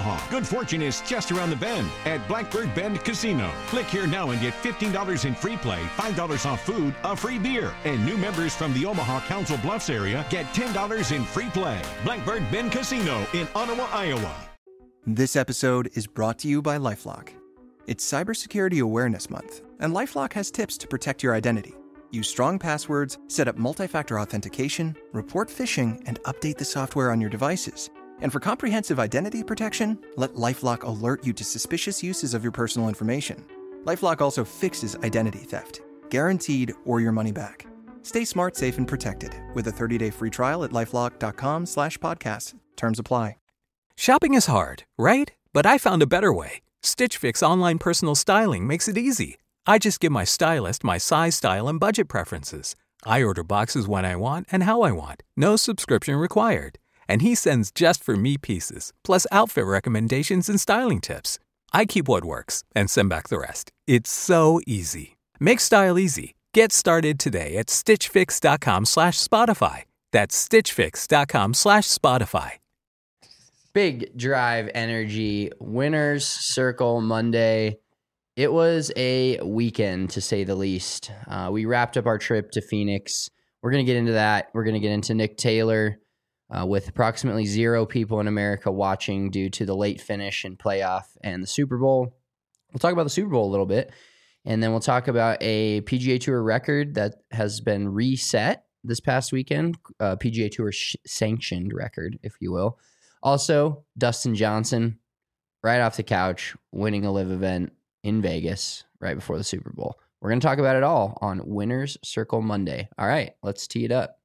Omaha. Good fortune is just around the bend at Blackbird Bend Casino. Click here now and get $15 in free play, $5 off food, a free beer. And new members from the Omaha Council Bluffs area get $10 in free play. Blackbird Bend Casino in Ottawa, Iowa. This episode is brought to you by LifeLock. It's Cybersecurity Awareness Month, and LifeLock has tips to protect your identity. Use strong passwords, set up multi-factor authentication, report phishing, and update the software on your devices. And for comprehensive identity protection, let LifeLock alert you to suspicious uses of your personal information. LifeLock also fixes identity theft, guaranteed or your money back. Stay smart, safe, and protected with a 30-day free trial at LifeLock.com/podcast. Terms apply. Shopping is hard, right? But I found a better way. Stitch Fix online personal styling makes it easy. I just give my stylist my size, style, and budget preferences. I order boxes when I want and how I want. No subscription required. And he sends just for me pieces, plus outfit recommendations and styling tips. I keep what works and send back the rest. It's so easy. Make style easy. Get started today at stitchfix.com/Spotify. That's stitchfix.com/Spotify. Big Drive Energy Winners Circle Monday. It was a weekend, to say the least. We wrapped up our trip to Phoenix. We're going to get into that. We're going to get into Nick Taylor with approximately 0 people in America watching due to the late finish in playoff and the Super Bowl. We'll talk about the Super Bowl a little bit, and then we'll talk about a PGA Tour record that has been reset this past weekend, PGA Tour sanctioned record, if you will. Also, Dustin Johnson, right off the couch, winning a live event in Vegas right before the Super Bowl. We're going to talk about it all on Winners Circle Monday. All right, let's tee it up.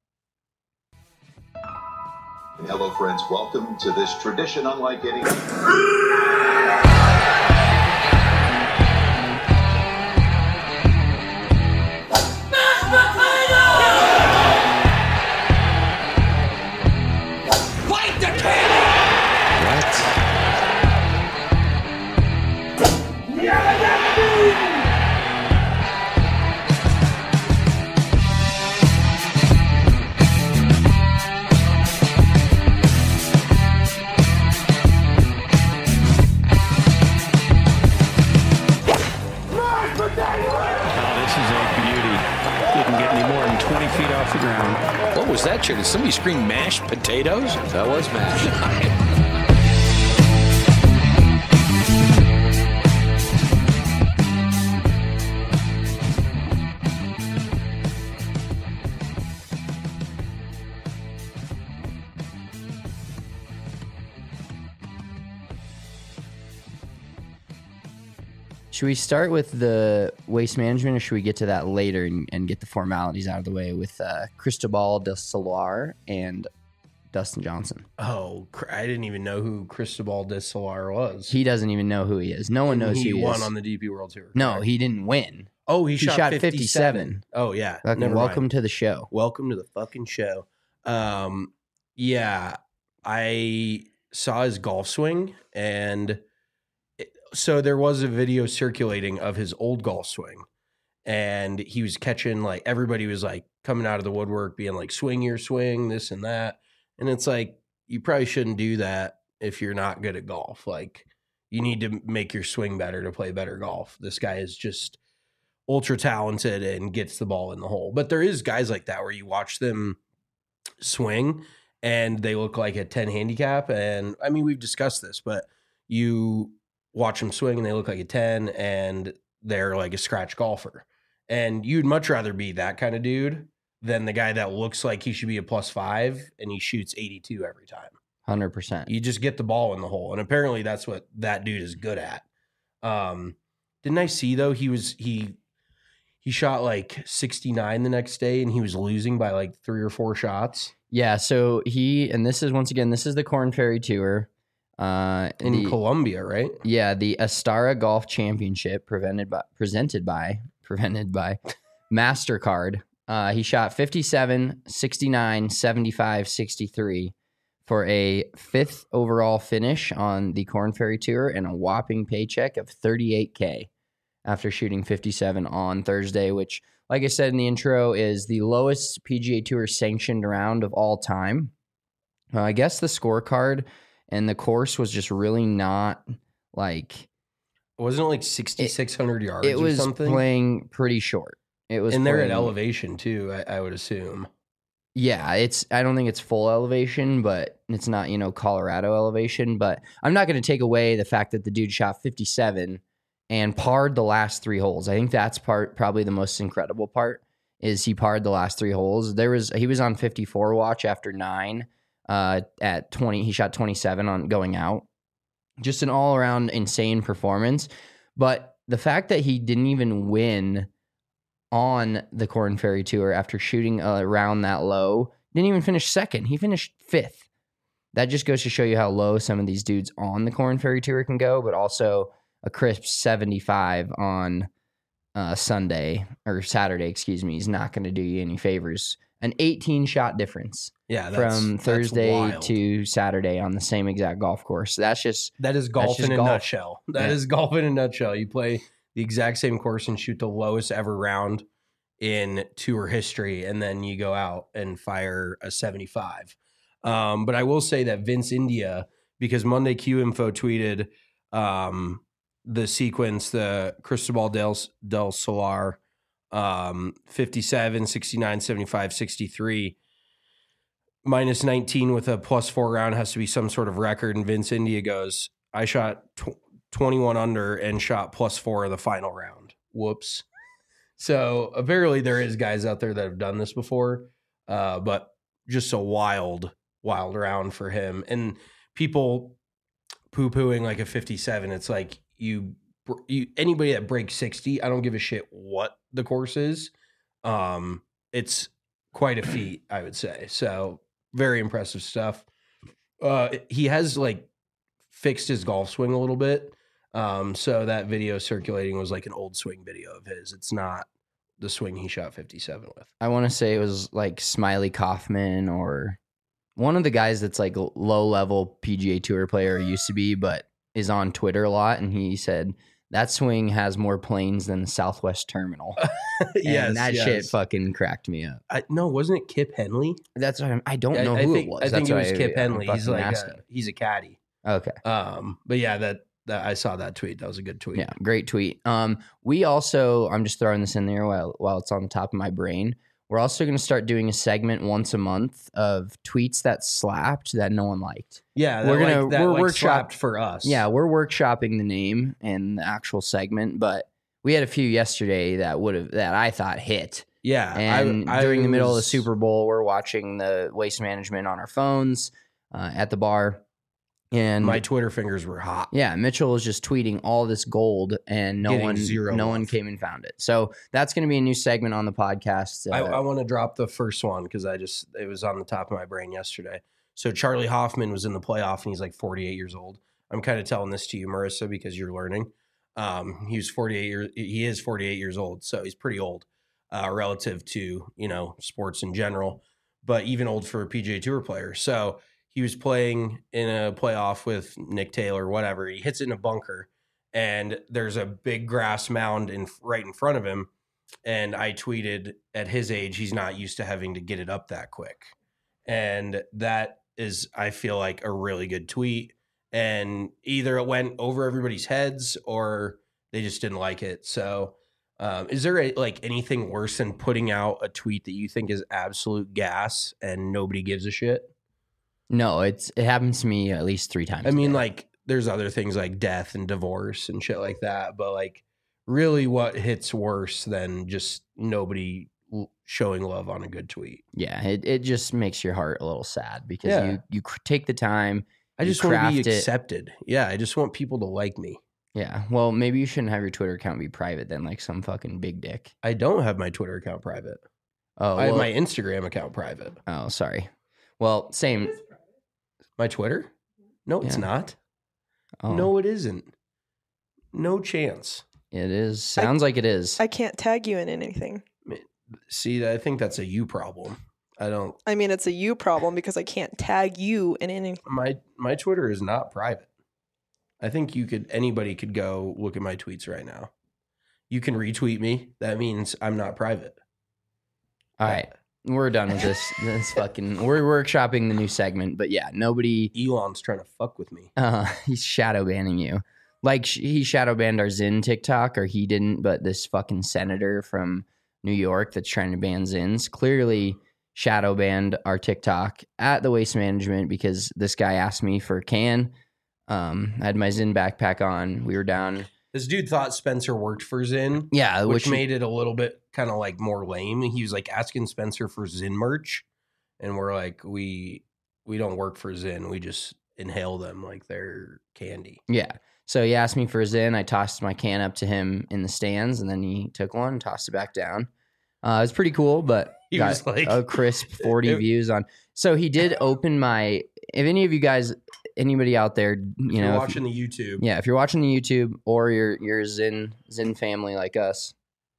Hello, friends. Welcome to this tradition unlike any. What was that, Chair? Did somebody scream mashed potatoes? That was mashed. Should we start with the waste management, or should we get to that later and get the formalities out of the way with Cristobal del Solar and Dustin Johnson? Oh, I didn't even know who Cristobal del Solar was. He doesn't even know who he is. No one knows who he is. He won on the DP World Tour. No, he didn't win. Oh, he shot 57. Oh, yeah. Welcome to the show. Welcome to the fucking show. Yeah, I saw his golf swing, and so there was a video circulating of his old golf swing, and he was catching, like, everybody was like coming out of the woodwork being like, swing your swing, this and that. And it's like, you probably shouldn't do that if you're not good at golf. Like, you need to make your swing better to play better golf. This guy is just ultra talented and gets the ball in the hole. But there is guys like that where you watch them swing and they look like a 10 handicap. And I mean, we've discussed this, but you watch them swing and they look like a 10 and they're like a scratch golfer. And you'd much rather be that kind of dude than the guy that looks like he should be a +5 and he shoots 82 every time. 100%. You just get the ball in the hole. And apparently that's what that dude is good at. Didn't I see though, he shot like 69 the next day and he was losing by like 3 or 4 shots. Yeah, so this is, once again, this is the Korn Ferry Tour. In Colombia, right? Yeah, the Astara Golf Championship presented by MasterCard. He shot 57, 69, 75, 63 for a 5th overall finish on the Korn Ferry Tour and a whopping paycheck of $38K after shooting 57 on Thursday, which, like I said in the intro, is the lowest PGA Tour sanctioned round of all time. I guess the scorecard and the course was just really not like. Wasn't it like 6,600 yards It was or something? playing pretty short. It was, and they're at playing- elevation too, I would assume. Yeah, I don't think it's full elevation, but it's not, Colorado elevation. But I'm not going to take away the fact that the dude shot 57 and parred the last 3 holes. I think that's probably the most incredible part is he parred the last 3 holes. He was on 54 watch after 9 at 20. He shot 27 on going out. Just an all around insane performance. But the fact that he didn't even win on the Korn Ferry Tour after shooting around that low, didn't even finish second. He finished 5th. That just goes to show you how low some of these dudes on the Korn Ferry Tour can go, but also a crisp 75 on Saturday, excuse me, is not going to do you any favors. An 18-shot difference from Thursday to Saturday on the same exact golf course. That is golf in a nutshell. That Yeah. is golf in a nutshell. You play the exact same course and shoot the lowest ever round in tour history, and then you go out and fire a 75. But I will say that Vince India, because Monday Q Info tweeted the sequence, the Cristobal del Solar 57, 69, 75, 63, minus 19 with a +4 round has to be some sort of record. And Vince India goes, I shot 21 under and shot +4 of the final round. Whoops. So apparently there is guys out there that have done this before, but just a wild round for him. And people poo-pooing like a 57. It's like you anybody that breaks 60, I don't give a shit what the course is. It's quite a feat, I would say. So very impressive stuff. He has like fixed his golf swing a little bit. So that video circulating was like an old swing video of his. It's not the swing he shot 57 with. I want to say it was like Smiley Kaufman or one of the guys that's like low level PGA Tour player used to be, but is on Twitter a lot. And he said that swing has more planes than the Southwest Terminal. And that shit fucking cracked me up. No, wasn't it Kip Henley? That's what I don't know who it was. I think it was That's Kip why I'm Henley. He's fucking like asking. he's a caddy. Okay. But yeah, that I saw that tweet. That was a good tweet. Yeah, great tweet. We also, I'm just throwing this in there while it's on the top of my brain. We're also going to start doing a segment once a month of tweets that slapped that no one liked. Yeah, we're slapped for us. Yeah, we're workshopping the name and the actual segment, but we had a few yesterday that I thought hit. Yeah, and during the middle of the Super Bowl, we're watching the Waste Management on our phones at the bar. And my Twitter fingers were hot. Yeah, Mitchell was just tweeting all this gold, and no one came and found it. So that's going to be a new segment on the podcast. I want to drop the first one because it was on the top of my brain yesterday. So Charlie Hoffman was in the playoff, and he's like 48 years old. I'm kind of telling this to you, Marissa, because you're learning. He is 48 years old, so he's pretty old relative to sports in general, but even old for a PGA Tour player. So he was playing in a playoff with Nick Taylor, whatever. He hits it in a bunker, and there's a big grass mound right in front of him. And I tweeted, at his age, he's not used to having to get it up that quick. And that is, I feel like, a really good tweet. And either it went over everybody's heads or they just didn't like it. So is there anything worse than putting out a tweet that you think is absolute gas and nobody gives a shit? No, it happens to me at least 3 times. I mean, there's other things like death and divorce and shit like that. But really what hits worse than just nobody showing love on a good tweet? Yeah, it just makes your heart a little sad because you take the time. I just want to be accepted. Yeah, I just want people to like me. Yeah, well, maybe you shouldn't have your Twitter account be private then, like some fucking big dick. I don't have my Twitter account private. Oh, I have my Instagram account private. Oh, sorry. Well, same. My Twitter? No, it's not. Oh. No, it isn't. No chance. It is. Sounds like it is. I can't tag you in anything. See, I think that's a you problem. I mean, it's a you problem because I can't tag you in anything. My Twitter is not private. I think anybody could go look at my tweets right now. You can retweet me. That means I'm not private. All right. we're done with this. This fucking. We're workshopping the new segment, but yeah, nobody. Elon's trying to fuck with me. He's shadow banning you. Like he shadow banned our Zyn TikTok, or he didn't, but this fucking senator from New York that's trying to ban Zyns clearly shadow banned our TikTok at the Waste Management because this guy asked me for a can. I had my Zyn backpack on. We were down. This dude thought Spencer worked for Zyn. Yeah, which made it a little bit kind of like more lame. He was like asking Spencer for Zyn merch, and we're like, we don't work for Zyn. We just inhale them like they're candy. Yeah. So he asked me for a Zyn. I tossed my can up to him in the stands, and then he took one and tossed it back down. It was pretty cool, but He got was like- a crisp 40 views on. So he did open my. If any of you guys, anybody out there, If you're know, watching the YouTube. yeah, if you're watching the YouTube or you're a Zyn family like us,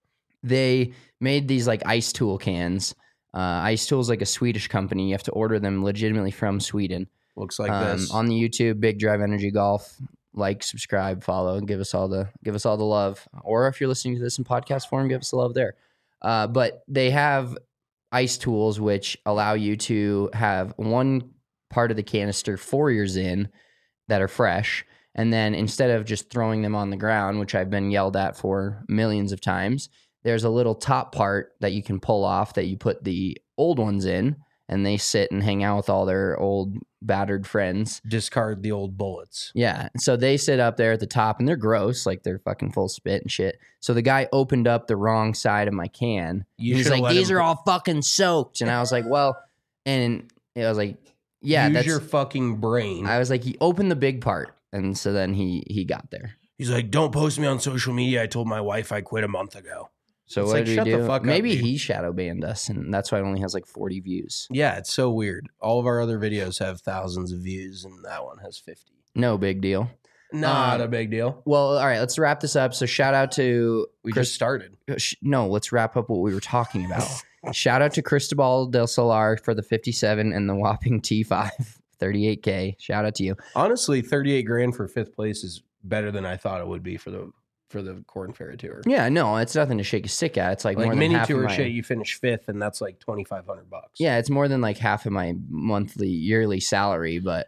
they made these like Ice Tool cans. Ice Tool is like a Swedish company. You have to order them legitimately from Sweden. Looks like this. On the YouTube, Big Drive Energy Golf. Like, subscribe, follow, give us all the love. Or if you're listening to this in podcast form, give us the love there. But they have ice tools which allow you to have one part of the canister for your Zyn that are fresh, and then instead of just throwing them on the ground, which I've been yelled at for millions of times, there's a little top part that you can pull off that you put the old ones in, and they sit and hang out with all their old battered friends. Discard the old bullets. Yeah. So they sit up there at the top and they're gross. Like they're fucking full of spit and shit. So the guy opened up the wrong side of my can. He's like, these are all fucking soaked. And I was like, well, and I was like, yeah, Use that's your fucking brain. I was like, he opened the big part. And so then he got there. He's like, don't post me on social media. I told my wife I quit a month ago. So It's what like, did shut we the do? fuck up, Maybe dude. he shadow banned us, and that's why it only has like 40 views. Yeah, it's so weird. All of our other videos have thousands of views, and that one has 50. No big deal. Not a big deal. Well, all right, let's wrap this up. So shout out to We Chris- just started. No, let's wrap up what we were talking about. Shout out to Cristobal del Solar for the 57 and the whopping T5, 38K. Shout out to you. Honestly, 38 grand for fifth place is better than I thought it would be for the Corn Ferry Tour. Yeah, no, it's nothing to shake a stick at. It's like more than mini half tour of my, shit, you finish fifth, and that's like $2,500. Yeah, it's more than like half of my yearly salary, but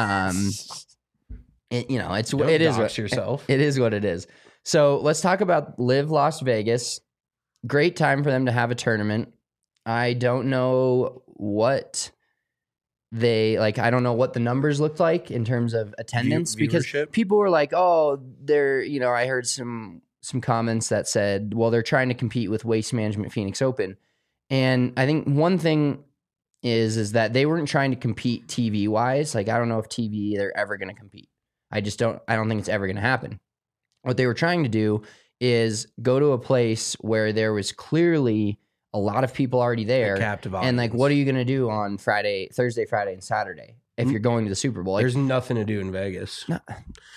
it, you know, it's Don't it is dox yourself. It is what it is. So let's talk about Live Las Vegas. Great time for them to have a tournament. I don't know what they like. I don't know what the numbers looked like in terms of attendance because viewership? people were like, "Oh, they're." You know, I heard some comments that said, "Well, they're trying to compete with Waste Management Phoenix Open," and I think one thing is that they weren't trying to compete TV wise. Like, I don't know if TV they're ever going to compete. I don't think it's ever going to happen. What they were trying to do is go to a place where there was clearly a lot of people already there. Captive And like, audience. what are you going to do on Thursday, Friday, and Saturday if you're going to the Super Bowl? Like, There's nothing to do in Vegas. No.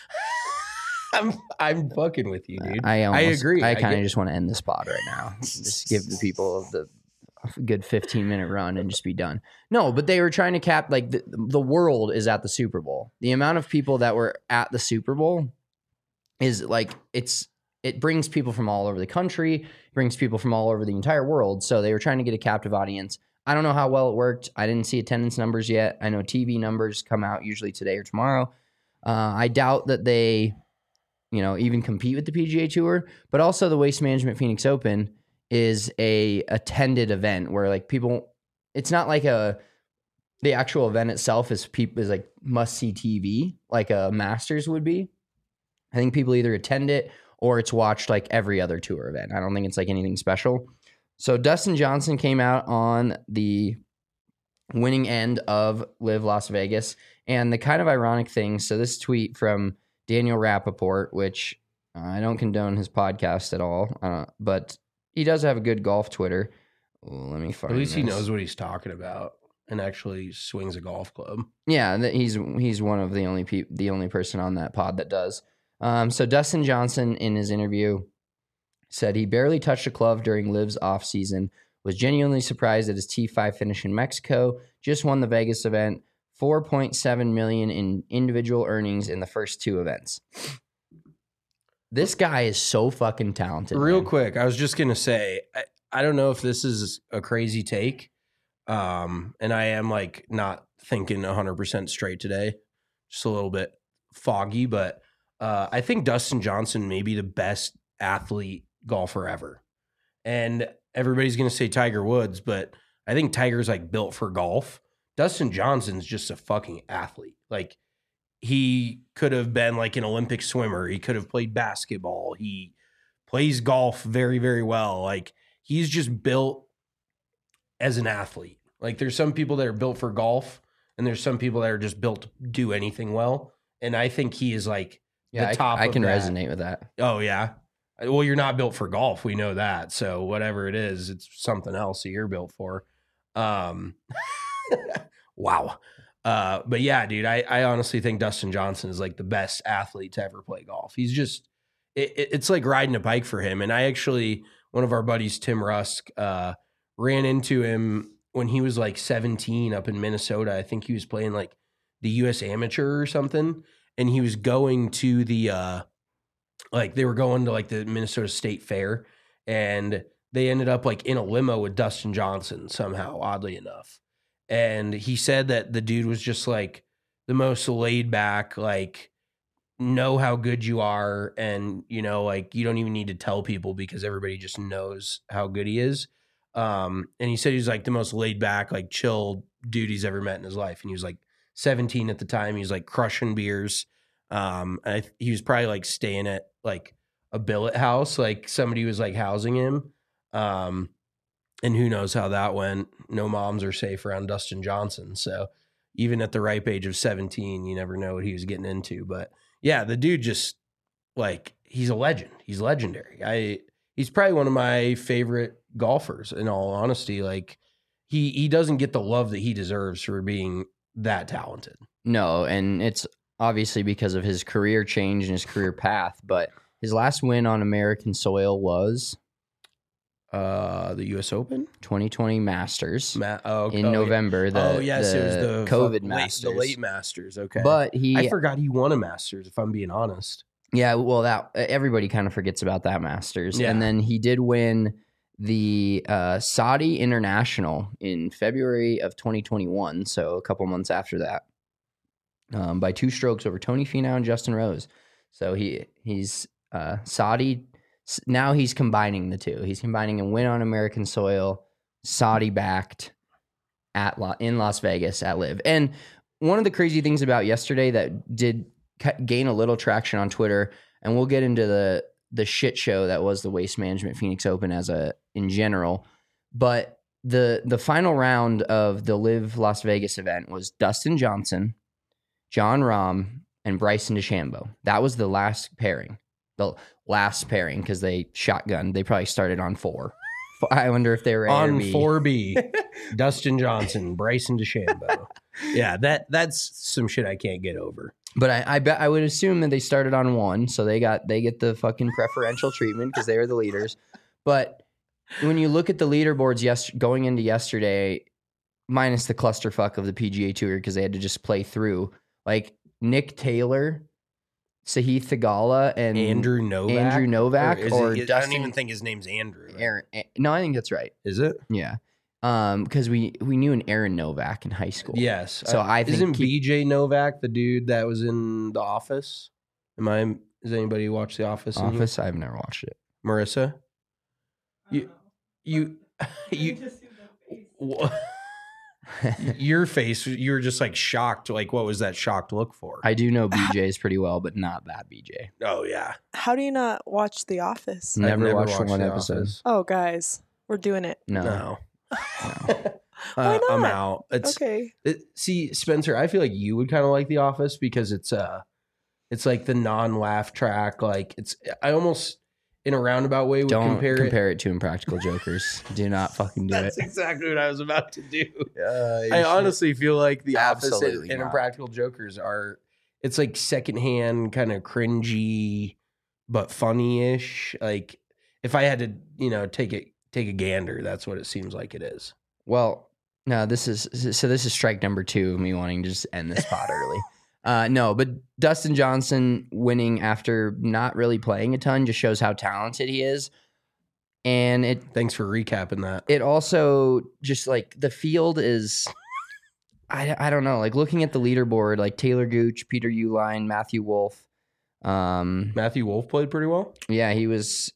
I'm fucking with you, dude. I agree. I kind get- of just want to end the spot right now. Just give the people a good 15-minute run and just be done. No, but they were trying to cap, like, the world is at the Super Bowl. The amount of people that were at the Super Bowl is like, it brings people from all over the country, brings people from all over the entire world. So they were trying to get a captive audience. I don't know how well it worked. I didn't see attendance numbers yet. I know TV numbers come out usually today or tomorrow. I doubt that they, even compete with the PGA Tour, but also the Waste Management Phoenix Open is a attended event where like people, it's not like the actual event itself is like must see TV like a Masters would be. I think people either attend it or it's watched like every other tour event. I don't think it's like anything special. So Dustin Johnson came out on the winning end of Live Las Vegas. And the kind of ironic thing, so this tweet from Daniel Rappaport, which I don't condone his podcast at all, but he does have a good golf Twitter. Let me find At least he this. knows what he's talking about and actually swings a golf club. Yeah, he's one of the only person on that pod that does. So Dustin Johnson in his interview said he barely touched a club during Liv's off season, was genuinely surprised at his T5 finish in Mexico, just won the Vegas event, $4.7 million in individual earnings in the first two events. This guy is so fucking talented. Real man. quick, I was just going to say, I don't know if this is a crazy take, And I am like not thinking 100% straight today, just a little bit foggy, but I think Dustin Johnson may be the best athlete golfer ever. And everybody's going to say Tiger Woods, but I think Tiger's like built for golf. Dustin Johnson's just a fucking athlete. Like, he could have been like an Olympic swimmer. He could have played basketball. He plays golf very, very well. Like, he's just built as an athlete. Like, there's some people that are built for golf, and there's some people that are just built to do anything well. And I think he is like the top. I can of that. resonate with that. Oh, yeah. Well, you're not built for golf. We know that. So whatever it is, it's something else that you're built for. Wow. But yeah, dude, I honestly think Dustin Johnson is like the best athlete to ever play golf. He's just, it's like riding a bike for him. And I actually, one of our buddies, Tim Rusk, ran into him when he was like 17 up in Minnesota. I think he was playing like the U.S. Amateur or something. And he was going to the, like they were going to like the Minnesota State Fair, and they ended up like in a limo with Dustin Johnson somehow, oddly enough. And he said that the dude was just like the most laid back, like, know how good you are. And, you know, like you don't even need to tell people because everybody just knows how good he is. And he said he was like the most laid back, like chill dude he's ever met in his life. And he was like 17 at the time. He was like crushing beers. He was probably like staying at like a billet house, like somebody was like housing him. And who knows how that went. No moms are safe around Dustin Johnson. So even at the ripe age of 17, you never know what he was getting into. But yeah, the dude just like, he's a legend. He's legendary. He's probably one of my favorite golfers in all honesty. Like he doesn't get the love that he deserves for being that talented. No. And it's obviously because of his career change and his career path, but his last win on American soil was the U.S. Open 2020 Masters in yeah. November. It was the COVID Masters, the late Masters. Okay, but I forgot he won a Masters. If I'm being honest, yeah. Well, that everybody kind of forgets about that Masters, yeah. And then he did win the Saudi International in February of 2021, so a couple months after that, by 2 strokes over Tony Finau and Justin Rose. So he's Saudi. Now he's combining the two. He's combining a win on American soil, Saudi backed in Las Vegas at LIV. And one of the crazy things about yesterday that did gain a little traction on Twitter, and we'll get into the shit show that was the Waste Management Phoenix Open in general, but the final round of the LIV Las Vegas event was Dustin Johnson, Jon Rahm, and Bryson DeChambeau. That was the last pairing. The last pairing because they shotgunned. They probably started on 4. I wonder if they were on 4B. Dustin Johnson, Bryson DeChambeau. Yeah, that's some shit I can't get over. But I bet I would assume that they started on 1, so they get the fucking preferential treatment because they were the leaders. But when you look at the leaderboards going into yesterday, minus the clusterfuck of the PGA Tour because they had to just play through, like Nick Taylor, Sahith Theegala, and Andrew Novak. I don't even think his name's Andrew. Aaron. No, I think that's right. Is it? Yeah. Because we knew an Aaron Novak in high school. Yes. So I think isn't BJ Novak the dude that was in The Office? Does anybody watch The Office? Office? I've never watched it. Marissa? You your face, you were just like shocked. Like, what was that shocked look for? I do know BJ's pretty well, but not that BJ. Oh, yeah. How do you not watch The Office? Never watched one episode. Office. Oh, guys, we're doing it. No. Why not? I'm out. Okay. See, Spencer, I feel like you would kind of like The Office because it's like the non-laugh track. Like I almost in a roundabout way would compare it to Impractical Jokers. Do not fucking do That's it. exactly what I was about to do. I honestly feel like The Office Absolutely and not. Impractical Jokers it's like secondhand, kind of cringy, but funny-ish. Like if I had to, take a gander, that's what it seems like it is. Well, no, this is strike number 2 of me wanting to just end this pod early. No, but Dustin Johnson winning after not really playing a ton just shows how talented he is. And Thanks for recapping that. it also just like the field is, I don't know, like looking at the leaderboard, like Taylor Gooch, Peter Uline, Matthew Wolf. Matthew Wolf played pretty well. Yeah, he was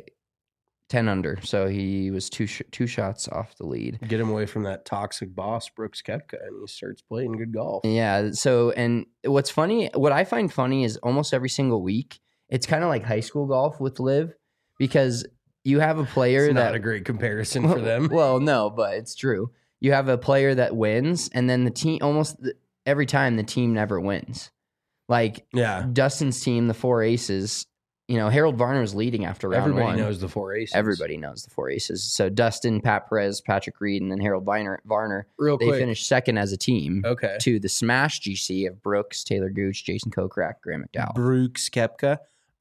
10 under, so he was two shots off the lead. Get him away from that toxic boss, Brooks Koepka, and he starts playing good golf. Yeah, so, and what I find funny is almost every single week, it's kind of like high school golf with Liv, because you have a player It's not a great comparison for them. Well, no, but it's true. You have a player that wins, and then the team every time the team never wins. Like Dustin's team, the Four Aces. Harold Varner was leading after round one. Everybody knows the Four Aces. Everybody knows the Four Aces. So Dustin, Pat Perez, Patrick Reed, and then Harold Varner. They finished second as a team. Okay. To the Smash GC of Brooks, Taylor Gooch, Jason Kokrak, Graham McDowell. Brooks Koepka.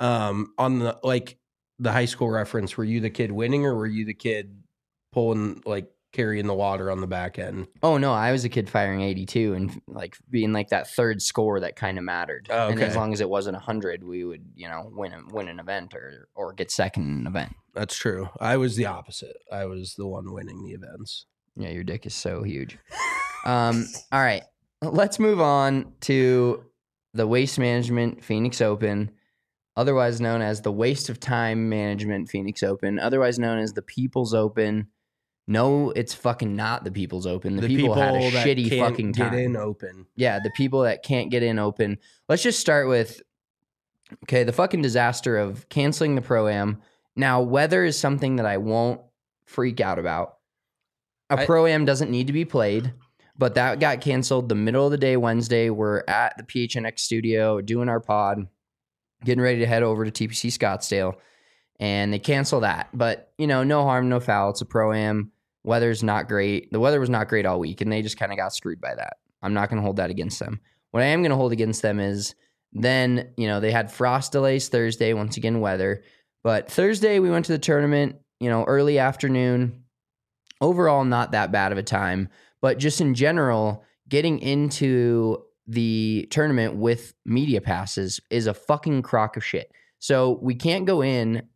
On the high school reference, were you the kid winning, or were you the kid pulling, like, carrying the water on the back end? Oh, no, I was a kid firing 82 and like being like that third score that kind of mattered. Oh, okay. And as long as it wasn't 100, we would, win an event or get second in an event. That's true. I was the opposite. I was the one winning the events. Yeah, your dick is so huge. All right, let's move on to the Waste Management Phoenix Open, otherwise known as the Waste of Time Management Phoenix Open, otherwise known as the People's Open. No, it's fucking not the People's Open. The people had a shitty fucking time. Get in open. Yeah, the people that can't get in open. Let's just start with, the fucking disaster of canceling the Pro-Am. Now, weather is something that I won't freak out about. Pro-Am doesn't need to be played, but that got canceled the middle of the day Wednesday. We're at the PHNX studio doing our pod, getting ready to head over to TPC Scottsdale, and they cancel that. But, no harm, no foul. It's a Pro-Am. Weather's not great. The weather was not great all week, and they just kind of got screwed by that. I'm not going to hold that against them. What I am going to hold against them is then, they had frost delays Thursday, once again, weather. But Thursday, we went to the tournament, early afternoon. Overall, not that bad of a time. But just in general, getting into the tournament with media passes is a fucking crock of shit. So we can't go in.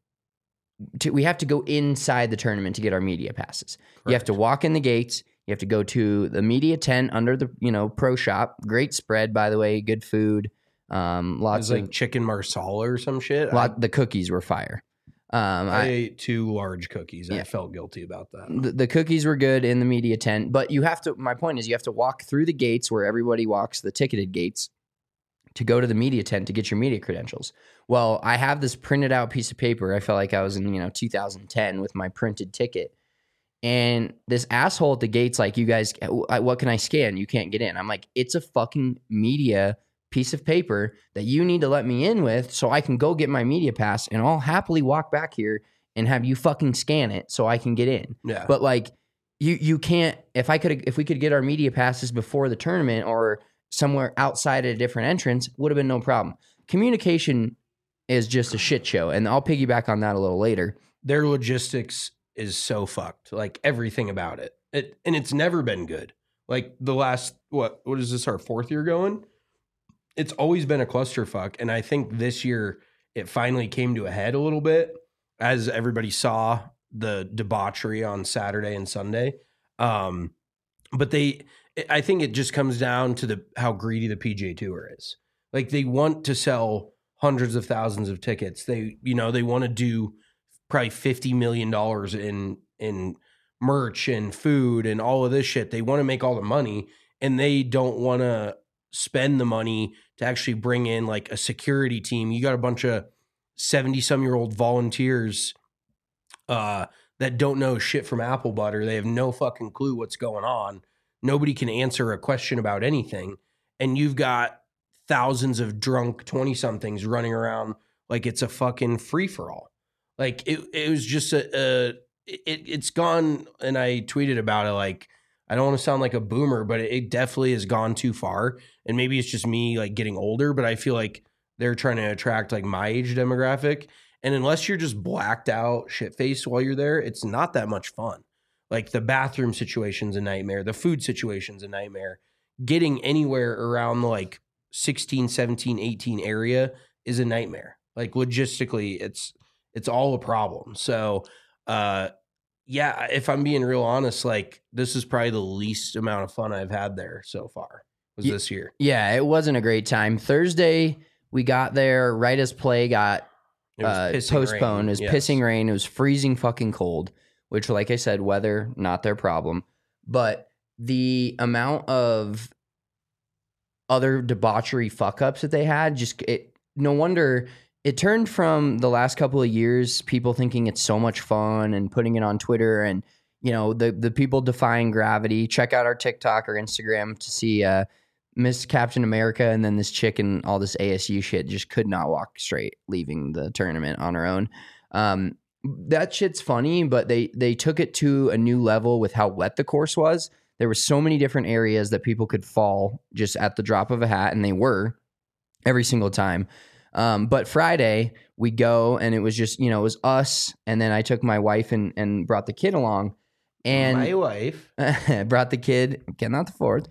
We have to go inside the tournament to get our media passes. Correct. You have to walk in the gates. You have to go to the media tent under the pro shop. Great spread, by the way. Good food. Lots of like chicken marsala or some shit. The cookies were fire. I ate 2 large cookies. Yeah. I felt guilty about that. The cookies were good in the media tent, but you have to. My point is, you have to walk through the gates where everybody walks, the ticketed gates, to go to the media tent to get your media credentials. Well, I have this printed out piece of paper. I felt like I was in 2010 with my printed ticket. And this asshole at the gate's like, you guys, what can I scan? You can't get in. I'm like, it's a fucking media piece of paper that you need to let me in with so I can go get my media pass, and I'll happily walk back here and have you fucking scan it so I can get in. Yeah. But like, you can't, if we could get our media passes before the tournament or somewhere outside at a different entrance, would have been no problem. Communication is just a shit show, and I'll piggyback on that a little later. Their logistics is so fucked, like everything about it. And it's never been good. Like the last, what is this, our 4th year going? It's always been a clusterfuck, and I think this year it finally came to a head a little bit as everybody saw the debauchery on Saturday and Sunday. But I think it just comes down to how greedy the PGA Tour is. Like, they want to sell hundreds of thousands of tickets. They want to do probably $50 million in merch and food and all of this shit. They want to make all the money, and they don't want to spend the money to actually bring in like a security team. You got a bunch of 70-some-year-old volunteers that don't know shit from apple butter. They have no fucking clue what's going on. Nobody can answer a question about anything. And you've got thousands of drunk 20-somethings running around like it's a fucking free-for-all. Like, it was just it's gone, and I tweeted about it, like, I don't want to sound like a boomer, but it definitely has gone too far. And maybe it's just me like getting older, but I feel like they're trying to attract like my age demographic. And unless you're just blacked out, shit-faced while you're there, it's not that much fun. Like, the bathroom situation's a nightmare. The food situation's a nightmare. Getting anywhere around the like 16, 17, 18 area is a nightmare. Like, logistically, it's all a problem. So Yeah, if I'm being real honest, like this is probably the least amount of fun I've had there so far was this year. Yeah, it wasn't a great time. Thursday, we got there right as play got postponed. It was pissing rain. It was freezing fucking cold, which, like I said, weather, not their problem. But the amount of other debauchery fuck-ups that they had, no wonder it turned from the last couple of years, people thinking it's so much fun and putting it on Twitter and, you know, the people defying gravity. Check out our TikTok or Instagram to see Miss Captain America and then this chick and all this ASU shit just could not walk straight leaving the tournament on her own. That shit's funny, but they took it to a new level with how wet the course was. There were so many different areas that people could fall just at the drop of a hat, and they were every single time. But Friday we go and it was just, you know, it was us. And then I took my wife and brought the kid along, and my wife brought the kid, again, not the fourth.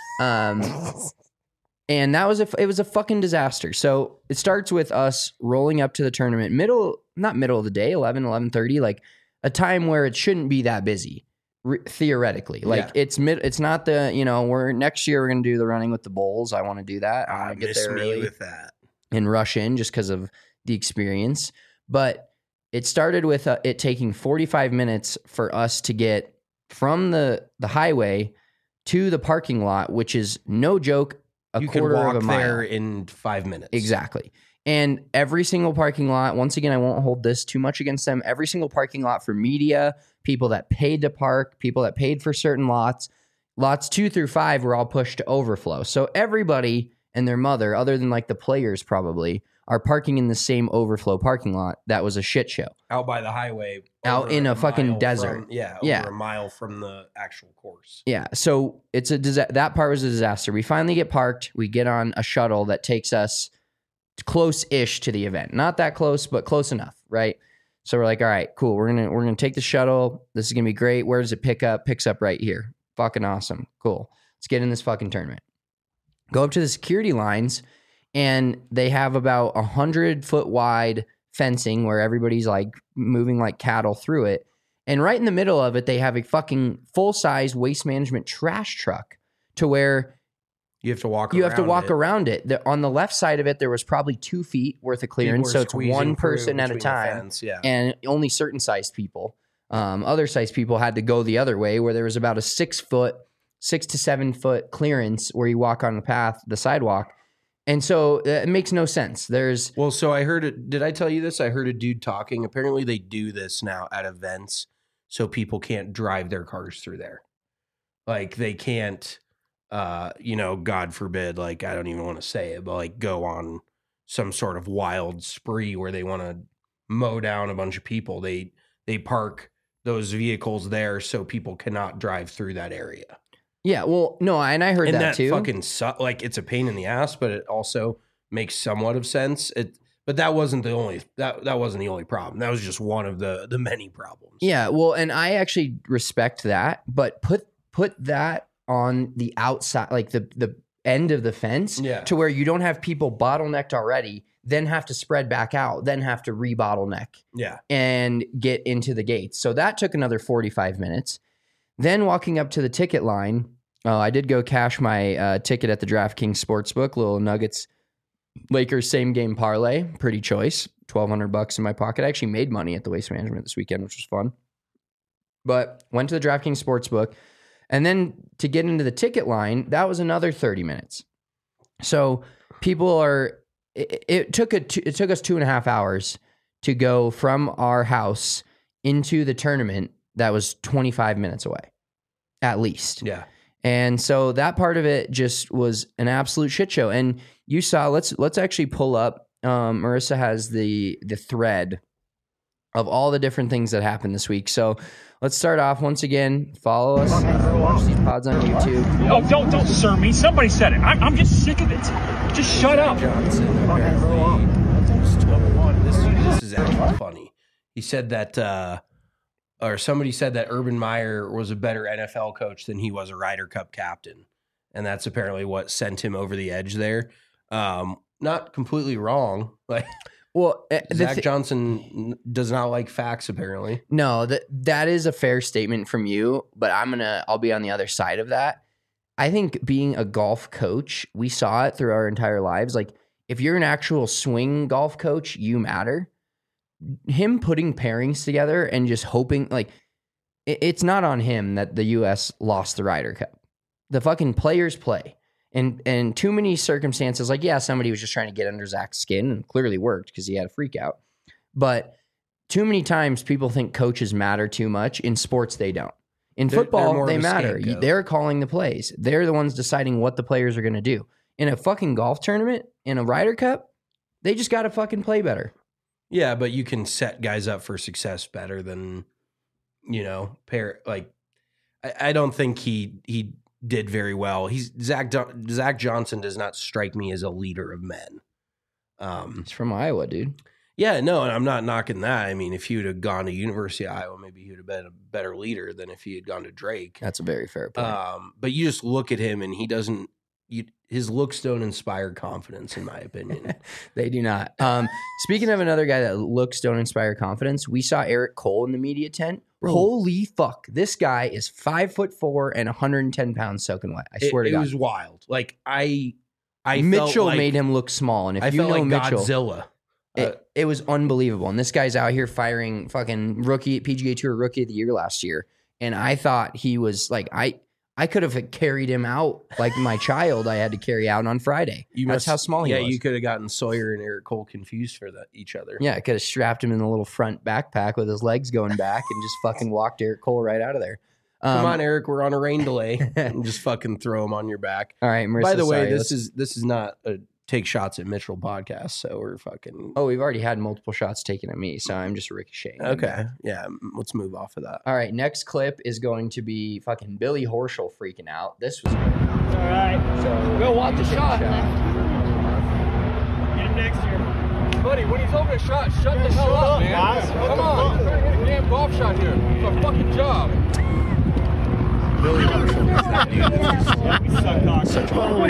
And that was it was a fucking disaster. So it starts with us rolling up to the tournament not middle of the day, 11:30, like a time where it shouldn't be that busy. Theoretically, like it's not the, you know, next year we're going to do the running with the bulls. I want to do that. I want to get there early with that and rush in just because of the experience. But it started with it taking 45 minutes for us to get from the highway to the parking lot, which is no joke, you quarter could walk of a mile there in 5 minutes. Exactly. And every single parking lot, once again, I won't hold this too much against them. Every single parking lot for media, people that paid to park, people that paid for certain lots 2 through 5 were all pushed to overflow. So everybody and their mother, other than like the players probably, are parking in the same overflow parking lot. That was a shit show. Out by the highway. Out in a fucking desert. Over a mile from the actual course. Yeah. So it's that part was a disaster. We finally get parked. We get on a shuttle that takes us close-ish to the event. Not that close, but close enough, right? So we're like, all right, cool. We're gonna take the shuttle. This is gonna be great. Where does it pick up? Picks up right here. Fucking awesome. Cool. Let's get in this fucking tournament. Go up to the security lines, and they have about 100-foot wide fencing where everybody's like moving like cattle through it. And right in the middle of it, they have a fucking full-size waste management trash truck to where you have to walk around it. On the left side of it, there was probably 2 feet worth of clearance. So it's one person at a time. And only certain sized people. Other sized people had to go the other way, where there was about a 6 to 7 foot clearance where you walk on the sidewalk. And so it makes no sense. So I heard it. Did I tell you this? I heard a dude talking. Apparently they do this now at events so people can't drive their cars through there. Like they can't, God forbid, like I don't even want to say it, but like go on some sort of wild spree where they want to mow down a bunch of people. They park those vehicles there so people cannot drive through that area. Yeah, well, no, and I heard that too. Fucking like it's a pain in the ass, but it also makes somewhat of sense. But that wasn't the only that wasn't the only problem. That was just one of the many problems. Yeah, well, and I actually respect that, but put that on the outside, like the end of the fence, to where you don't have people bottlenecked already, then have to spread back out, then have to re-bottleneck, and get into the gates. So that took another 45 minutes. Then walking up to the ticket line, I did go cash my ticket at the DraftKings Sportsbook, little Nuggets Lakers same game parlay, pretty choice, $1,200 in my pocket. I actually made money at the Waste Management this weekend, which was fun. But went to the DraftKings Sportsbook, and then to get into the ticket line, that was another 30 minutes. So it took us 2.5 hours to go from our house into the tournament. That was 25 minutes away, at least. Yeah. And so that part of it just was an absolute shit show. And you saw, let's actually pull up. Marissa has the thread of all the different things that happened this week. So let's start off once again. Follow us. Watch these pods on YouTube. Oh, don't sir me. Somebody said it. I'm just sick of it. Just shut up. Johnson, this is actually funny. He said that. Or somebody said that Urban Meyer was a better NFL coach than he was a Ryder Cup captain. And that's apparently what sent him over the edge there. Not completely wrong. Well, Zach Johnson does not like facts, apparently. No, that is a fair statement from you, but I'll be on the other side of that. I think being a golf coach, we saw it through our entire lives. Like, if you're an actual swing golf coach, you matter. Him putting pairings together and just hoping, like, it's not on him that the U.S. lost the Ryder Cup. The fucking players play. And too many circumstances, like, yeah, somebody was just trying to get under Zach's skin and clearly worked because he had a freak out. But too many times people think coaches matter too much. In sports, they don't. In football, they matter. They're calling the plays. They're the ones deciding what the players are going to do. In a fucking golf tournament, in a Ryder Cup, they just got to fucking play better. Yeah, but you can set guys up for success better than, I don't think he did very well. Zach Johnson does not strike me as a leader of men. He's from Iowa, dude. Yeah, no, and I'm not knocking that. I mean, if he would have gone to University of Iowa, maybe he would have been a better leader than if he had gone to Drake. That's a very fair point. But you just look at him, and he doesn't. His looks don't inspire confidence, in my opinion. They do not. Speaking of another guy that looks don't inspire confidence, we saw Eric Cole in the media tent. Bro. Holy fuck. This guy is 5'4" and 110 pounds soaking wet. I swear to God. It was wild. Like, I Mitchell felt made him look small. And if I you felt know like Mitchell, Godzilla. It was unbelievable. And this guy's out here firing fucking PGA Tour Rookie of the Year last year. And I thought he was like, I could have carried him out like my child I had to carry out on Friday. That's how small he was. Yeah, you could have gotten Sawyer and Eric Cole confused for each other. Yeah, I could have strapped him in the little front backpack with his legs going back and just fucking walked Eric Cole right out of there. Come on, Eric, we're on a rain delay. And just fucking throw him on your back. All right, Marissa, by the way, this is not a take shots at Mitchell podcast, so we're fucking... Oh, we've already had multiple shots taken at me, so I'm just ricocheting. Okay, yeah, let's move off of that. All right, next clip is going to be fucking Billy Horschel freaking out. This was... All right, so go watch the shot. Get him next year. Buddy, when he's over a shot, shut the hell up, man. Guys. Come on, we're trying to hit a damn golf shot here. It's our fucking job. Billy Horschel. Such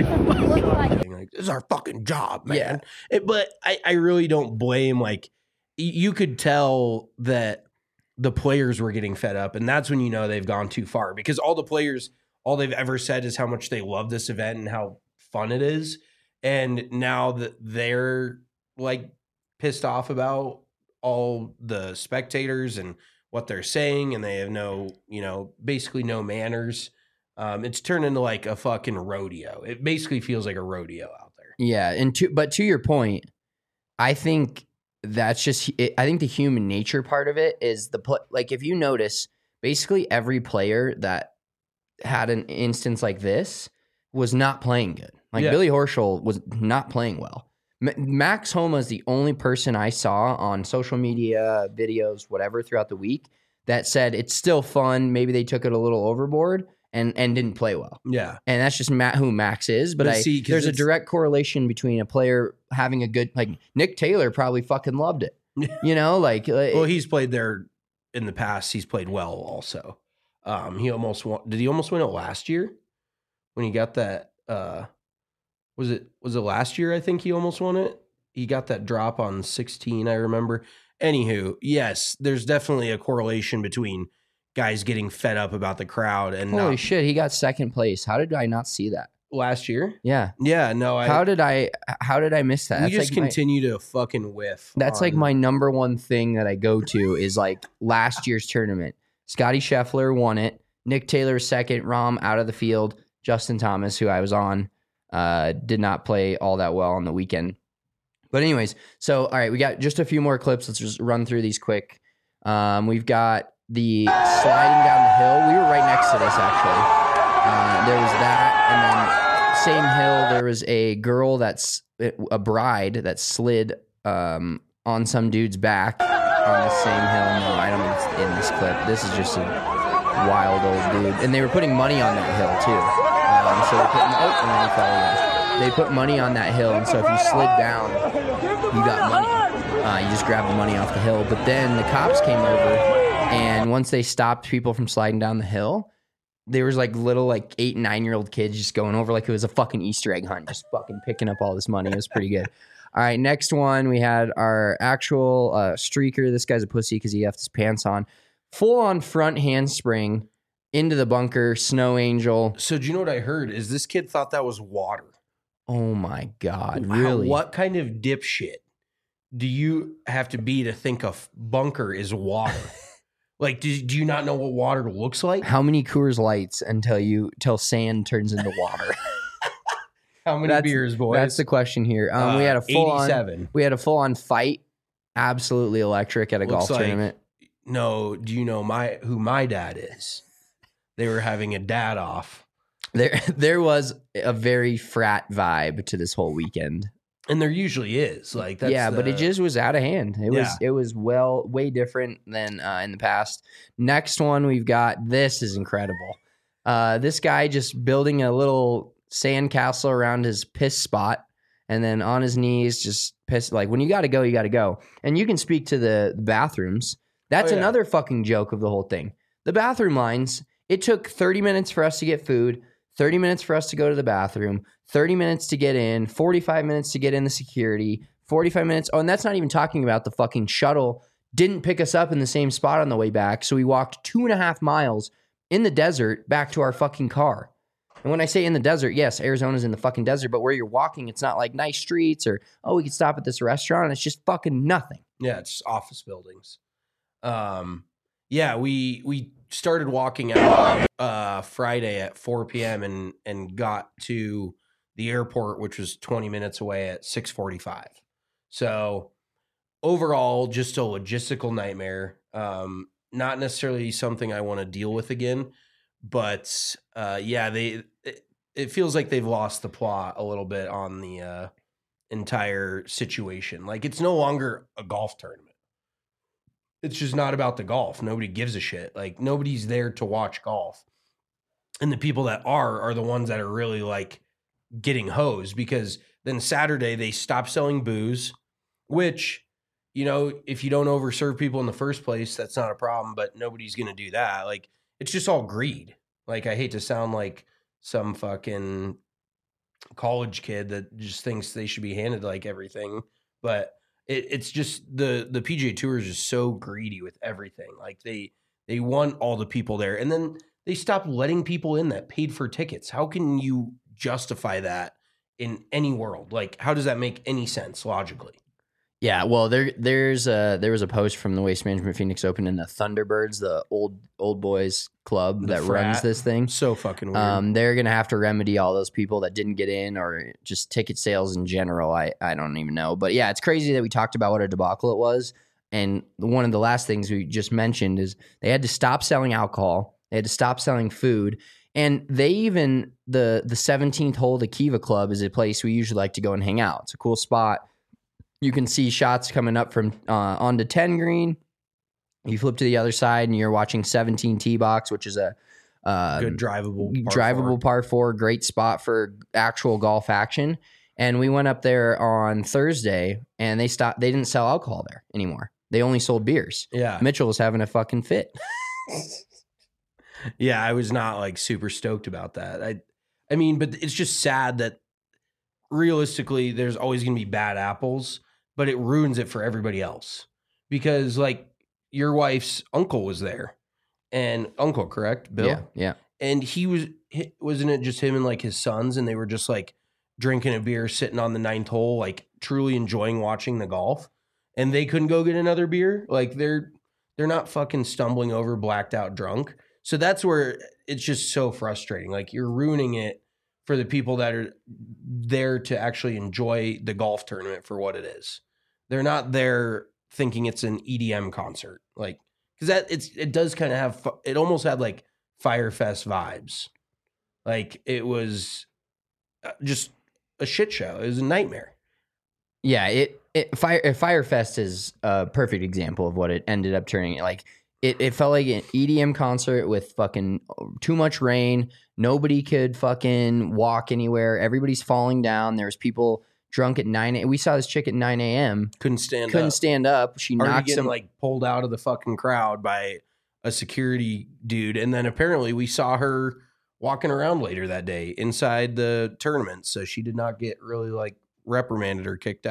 This is our fucking job, man. Yeah. But I really don't blame, like, you could tell that the players were getting fed up, and that's when you know they've gone too far, because all the players, all they've ever said is how much they love this event and how fun it is. And now that they're like pissed off about all the spectators and what they're saying, and they have basically no manners. It's turned into like a fucking rodeo. It basically feels like a rodeo out there. Yeah, and to your point, I think that's just I think the human nature part of it is like, if you notice, basically every player that had an instance like this was not playing good. Like, Billy Horschel was not playing well. Max Homa is the only person I saw on social media, videos, whatever, throughout the week that said it's still fun. Maybe they took it a little overboard and didn't play well. Yeah. And that's just who Max is. But there's a direct correlation between a player having a good, like Nick Taylor probably fucking loved it. Well, he's played there in the past. He's played well also. He almost won. Did he almost win it last year when he got that? Was it last year? I think he almost won it. He got that drop on 16, I remember. Anywho, yes, there's definitely a correlation between guys getting fed up about the crowd and holy shit, he got second place. How did I not see that last year? Yeah, no. How did I miss that? You just like continue to fucking whiff. That's like my number one thing that I go to is like last year's tournament. Scotty Scheffler won it. Nick Taylor second. Rahm out of the field. Justin Thomas, who I was on, did not play all that well on the weekend. But anyways, so, all right, we got just a few more clips. Let's just run through these quick. We've got the sliding down the hill. We were right next to this, actually. There was that. And then same hill, there was a girl a bride that slid on some dude's back on the same hill. No, I don't think it's in this clip. This is just a wild old dude. And they were putting money on that hill, too. So they put, and then he fell away. They put money on that hill, and so if you slid down, you got money. You just grabbed the money off the hill. But then the cops came over, and once they stopped people from sliding down the hill, there was like little 8 and 9 year old kids just going over like it was a fucking Easter egg hunt, just fucking picking up all this money. It was pretty good. All right, next one, we had our actual streaker. This guy's a pussy because he left his pants on. Full-on front handspring into the bunker, snow angel. So do you know what I heard? Is this kid thought that was water. Oh, my God, really? What kind of dipshit do you have to be to think a bunker is water? Like, do you not know what water looks like? How many Coors Lights until sand turns into water? How many beers, boys? That's the question here. We had a full-on 87. We had a full-on fight, absolutely electric at a golf tournament. No, do you know who my dad is? They were having a dad off. There was a very frat vibe to this whole weekend. And there usually is. Like that's but it just was out of hand. It was way different than in the past. Next one we've got, this is incredible. This guy just building a little sandcastle around his piss spot, and then on his knees just piss. Like, when you gotta go, you gotta go. And you can speak to the bathrooms. That's another fucking joke of the whole thing. The bathroom lines, it took 30 minutes for us to get food, 30 minutes for us to go to the bathroom, 30 minutes to get in, 45 minutes to get in the security, 45 minutes. Oh, and that's not even talking about the fucking shuttle didn't pick us up in the same spot on the way back. So we walked 2.5 miles in the desert back to our fucking car. And when I say in the desert, yes, Arizona's in the fucking desert, but where you're walking, it's not like nice streets or, oh, we could stop at this restaurant. It's just fucking nothing. Yeah, it's office buildings. We started walking out Friday at 4 p.m. and got to the airport, which was 20 minutes away at 6:45. So overall, just a logistical nightmare. Not necessarily something I want to deal with again, but it feels like they've lost the plot a little bit on the entire situation. Like, it's no longer a golf tournament. It's just not about the golf. Nobody gives a shit. Like, nobody's there to watch golf. And the people that are the ones that are really like getting hosed, because then Saturday they stopped selling booze, which, you know, if you don't overserve people in the first place, that's not a problem, but nobody's going to do that. Like, it's just all greed. Like, I hate to sound like some fucking college kid that just thinks they should be handed like everything, but it's just the PGA Tour is just so greedy with everything. Like, they want all the people there, and then they stopped letting people in that paid for tickets. How can you justify that in any world? Like, how does that make any sense logically? Yeah, well, there was a post from the Waste Management Phoenix Open and the Thunderbirds, the old boys club that runs this thing. So fucking weird. They're gonna have to remedy all those people that didn't get in, or just ticket sales in general. I don't even know, but yeah, it's crazy that we talked about what a debacle it was. And one of the last things we just mentioned is they had to stop selling alcohol, they had to stop selling food, and they even the 17th hole, the Kiva Club, is a place we usually like to go and hang out. It's a cool spot. You can see shots coming up from onto 10 green. You flip to the other side and you're watching 17 tee box, which is a good drivable par 4, great spot for actual golf action. And we went up there on Thursday and they didn't sell alcohol there anymore. They only sold beers. Yeah. Mitchell was having a fucking fit. Yeah, I was not like super stoked about that. I mean, but it's just sad that realistically there's always going to be bad apples, but it ruins it for everybody else. Because like your wife's uncle was there, and uncle, correct? Bill? Yeah. And wasn't it just him and like his sons, and they were just like drinking a beer, sitting on the 9th hole, like truly enjoying watching the golf, and they couldn't go get another beer? Like they're not fucking stumbling over blacked out drunk. So that's where it's just so frustrating. Like, you're ruining it for the people that are there to actually enjoy the golf tournament for what it is. They're not there thinking it's an EDM concert. Like, because it does kind of have, it almost had like Firefest vibes. Like, it was just a shit show. It was a nightmare. Yeah, Firefest is a perfect example of what it ended up turning. Like, it felt like an EDM concert with fucking too much rain. Nobody could fucking walk anywhere. Everybody's falling down. There was people drunk at 9 a.m. We saw this chick at 9 a.m. Couldn't stand up. She Already knocked getting like pulled out of the fucking crowd by a security dude. And then apparently we saw her walking around later that day inside the tournament. So she did not get really like reprimanded or kicked out.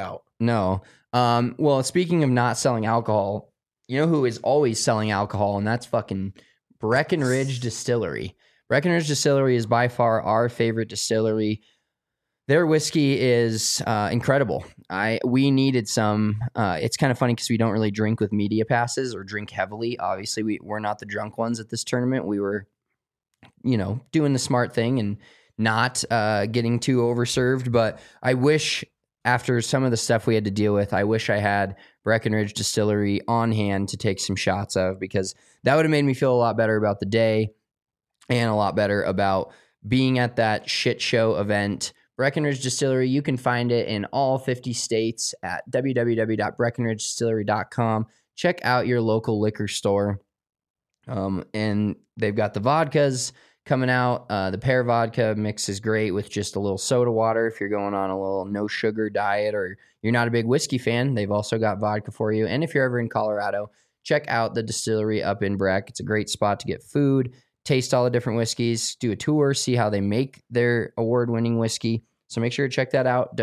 No. Well, speaking of not selling alcohol, you know who is always selling alcohol, and that's fucking Breckenridge Distillery. Breckenridge Distillery is by far our favorite distillery. Their whiskey is incredible. We needed some. It's kind of funny because we don't really drink with media passes or drink heavily. Obviously, we're not the drunk ones at this tournament. We were, doing the smart thing and not getting too overserved. But I wish, after some of the stuff we had to deal with, I wish I had Breckenridge Distillery on hand to take some shots of, because that would have made me feel a lot better about the day and a lot better about being at that shit show event. Breckenridge Distillery, you can find it in all 50 states at www.breckenridgedistillery.com. Check out your local liquor store. And they've got the vodkas coming out. The pear vodka mix is great with just a little soda water if you're going on a little no sugar diet or you're not a big whiskey fan. They've also got vodka for you. And if you're ever in Colorado, check out the distillery up in Breck. It's a great spot to get food, taste all the different whiskeys, do a tour, see how they make their award-winning whiskey. So make sure to check that out,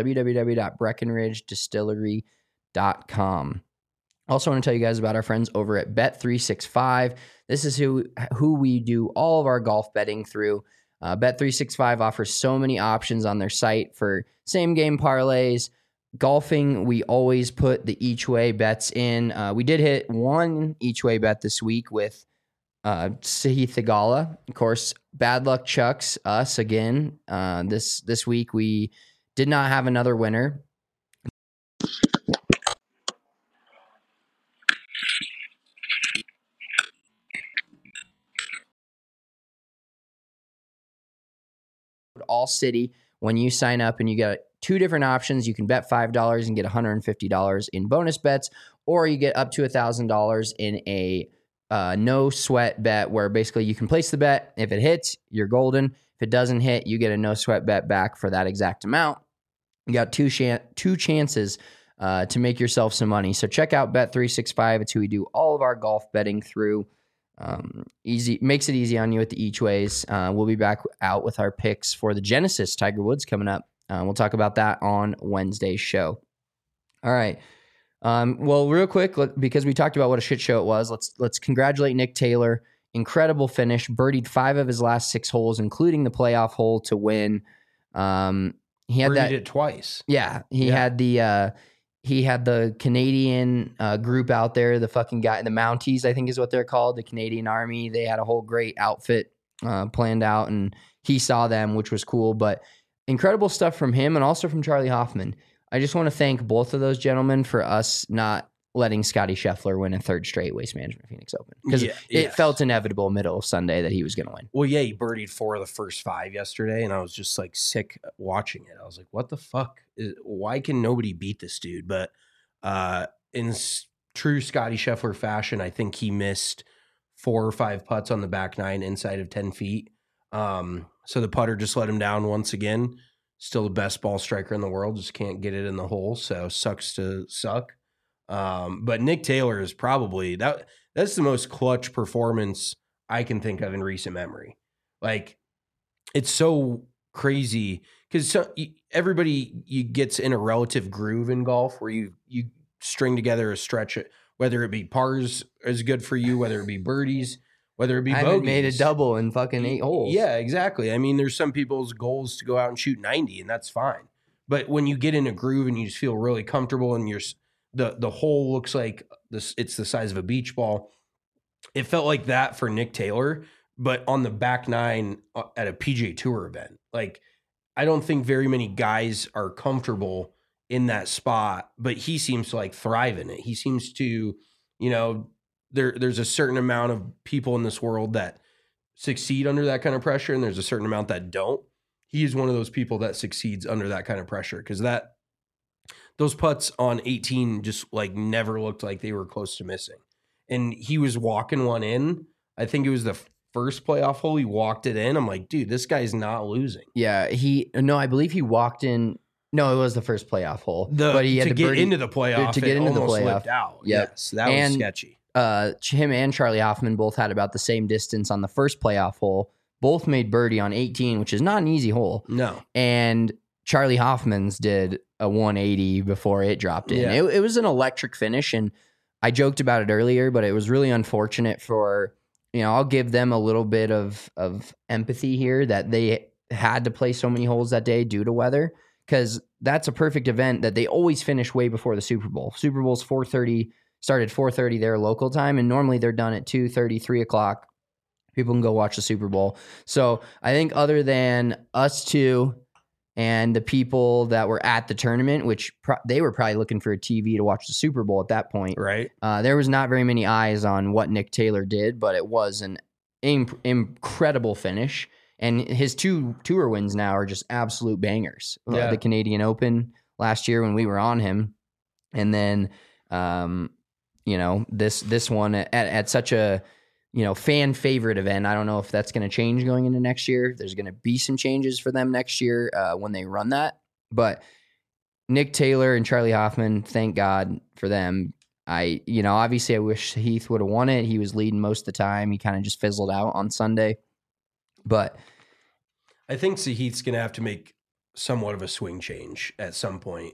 www.breckenridgedistillery.com. Also want to tell you guys about our friends over at Bet365. This is who we do all of our golf betting through. Bet365 offers so many options on their site for same-game parlays. Golfing, we always put the each-way bets in. We did hit one each-way bet this week with Sahith Theegala. Of course, bad luck Chucks, us again. This week we did not have another winner. All City, when you sign up, and you get two different options. You can bet $5 and get $150 in bonus bets, or you get up to $1,000 in a no sweat bet, where basically you can place the bet. If it hits, you're golden. If it doesn't hit, you get a no sweat bet back for that exact amount. You got two chances to make yourself some money. So check out Bet365. It's who we do all of our golf betting through. Easy, makes it easy on you at the each ways. We'll be back out with our picks for the Genesis Tiger Woods coming up. We'll talk about that on Wednesday's show. All right. Well, real quick, because we talked about what a shit show it was, let's congratulate Nick Taylor. Incredible finish. Birdied 5 of his last 6 holes, including the playoff hole to win. He had birdied it twice. Yeah, he had the Canadian group out there, the fucking guy, the Mounties, I think is what they're called, the Canadian Army. They had a whole great outfit planned out, and he saw them, which was cool. But incredible stuff from him and also from Charlie Hoffman. I just want to thank both of those gentlemen for us not letting Scotty Scheffler win a 3rd straight Waste Management Phoenix Open, because it felt inevitable middle of Sunday that he was going to win. Well, yeah, he birdied 4 of the first 5 yesterday, and I was just like sick watching it. I was like, what the fuck? Why can nobody beat this dude? But in true Scotty Scheffler fashion, I think he missed 4 or 5 putts on the back 9 inside of 10 feet. So the putter just let him down once again. Still the best ball striker in the world, just can't get it in the hole. So sucks to suck. But Nick Taylor is probably that's the most clutch performance I can think of in recent memory. Like, it's so crazy because everybody gets in a relative groove in golf where you string together a stretch, whether it be pars is good for you, whether it be birdies, whether it be bogeys. I haven't made a double in fucking 8 holes. Yeah, exactly. I mean, there's some people's goals to go out and shoot 90, and that's fine. But when you get in a groove and you just feel really comfortable, and the hole looks like it's the size of a beach ball, it felt like that for Nick Taylor, but on the back 9 at a PGA Tour event. Like, I don't think very many guys are comfortable in that spot, but he seems to like thrive in it. He seems to, there's a certain amount of people in this world that succeed under that kind of pressure, and there's a certain amount that don't. He is one of those people that succeeds under that kind of pressure, because those putts on 18 just like never looked like they were close to missing. And he was walking one in. I think it was the first playoff hole. He walked it in. I'm like, dude, this guy's not losing. Yeah, I believe he walked in. No, it was the first playoff hole. But he had to get into the playoff. To get into the playoff. Slipped out. Yep. Yes, that was sketchy. Him and Charlie Hoffman both had about the same distance on the first playoff hole. Both made birdie on 18, which is not an easy hole. No. And Charlie Hoffman's did a 180 before it dropped in. Yeah. It was an electric finish, and I joked about it earlier, but it was really unfortunate for, I'll give them a little bit of empathy here that they had to play so many holes that day due to weather, because that's a perfect event that they always finish way before the Super Bowl. Super Bowl's 4:30, started 4:30 their local time, and normally they're done at 2:30, 3 o'clock. People can go watch the Super Bowl. So I think other than us two and the people that were at the tournament, which they were probably looking for a TV to watch the Super Bowl at that point. Right. There was not very many eyes on what Nick Taylor did, but it was an incredible finish. And his 2 tour wins now are just absolute bangers. Yeah. The Canadian Open last year when we were on him. And then, this one at such a, fan favorite event. I don't know if that's going to change going into next year. There's going to be some changes for them next year when they run that. But Nick Taylor and Charlie Hoffman, thank God for them. Obviously I wish Heath would have won it. He was leading most of the time. He kind of just fizzled out on Sunday. But I think Sahith's going to have to make somewhat of a swing change at some point.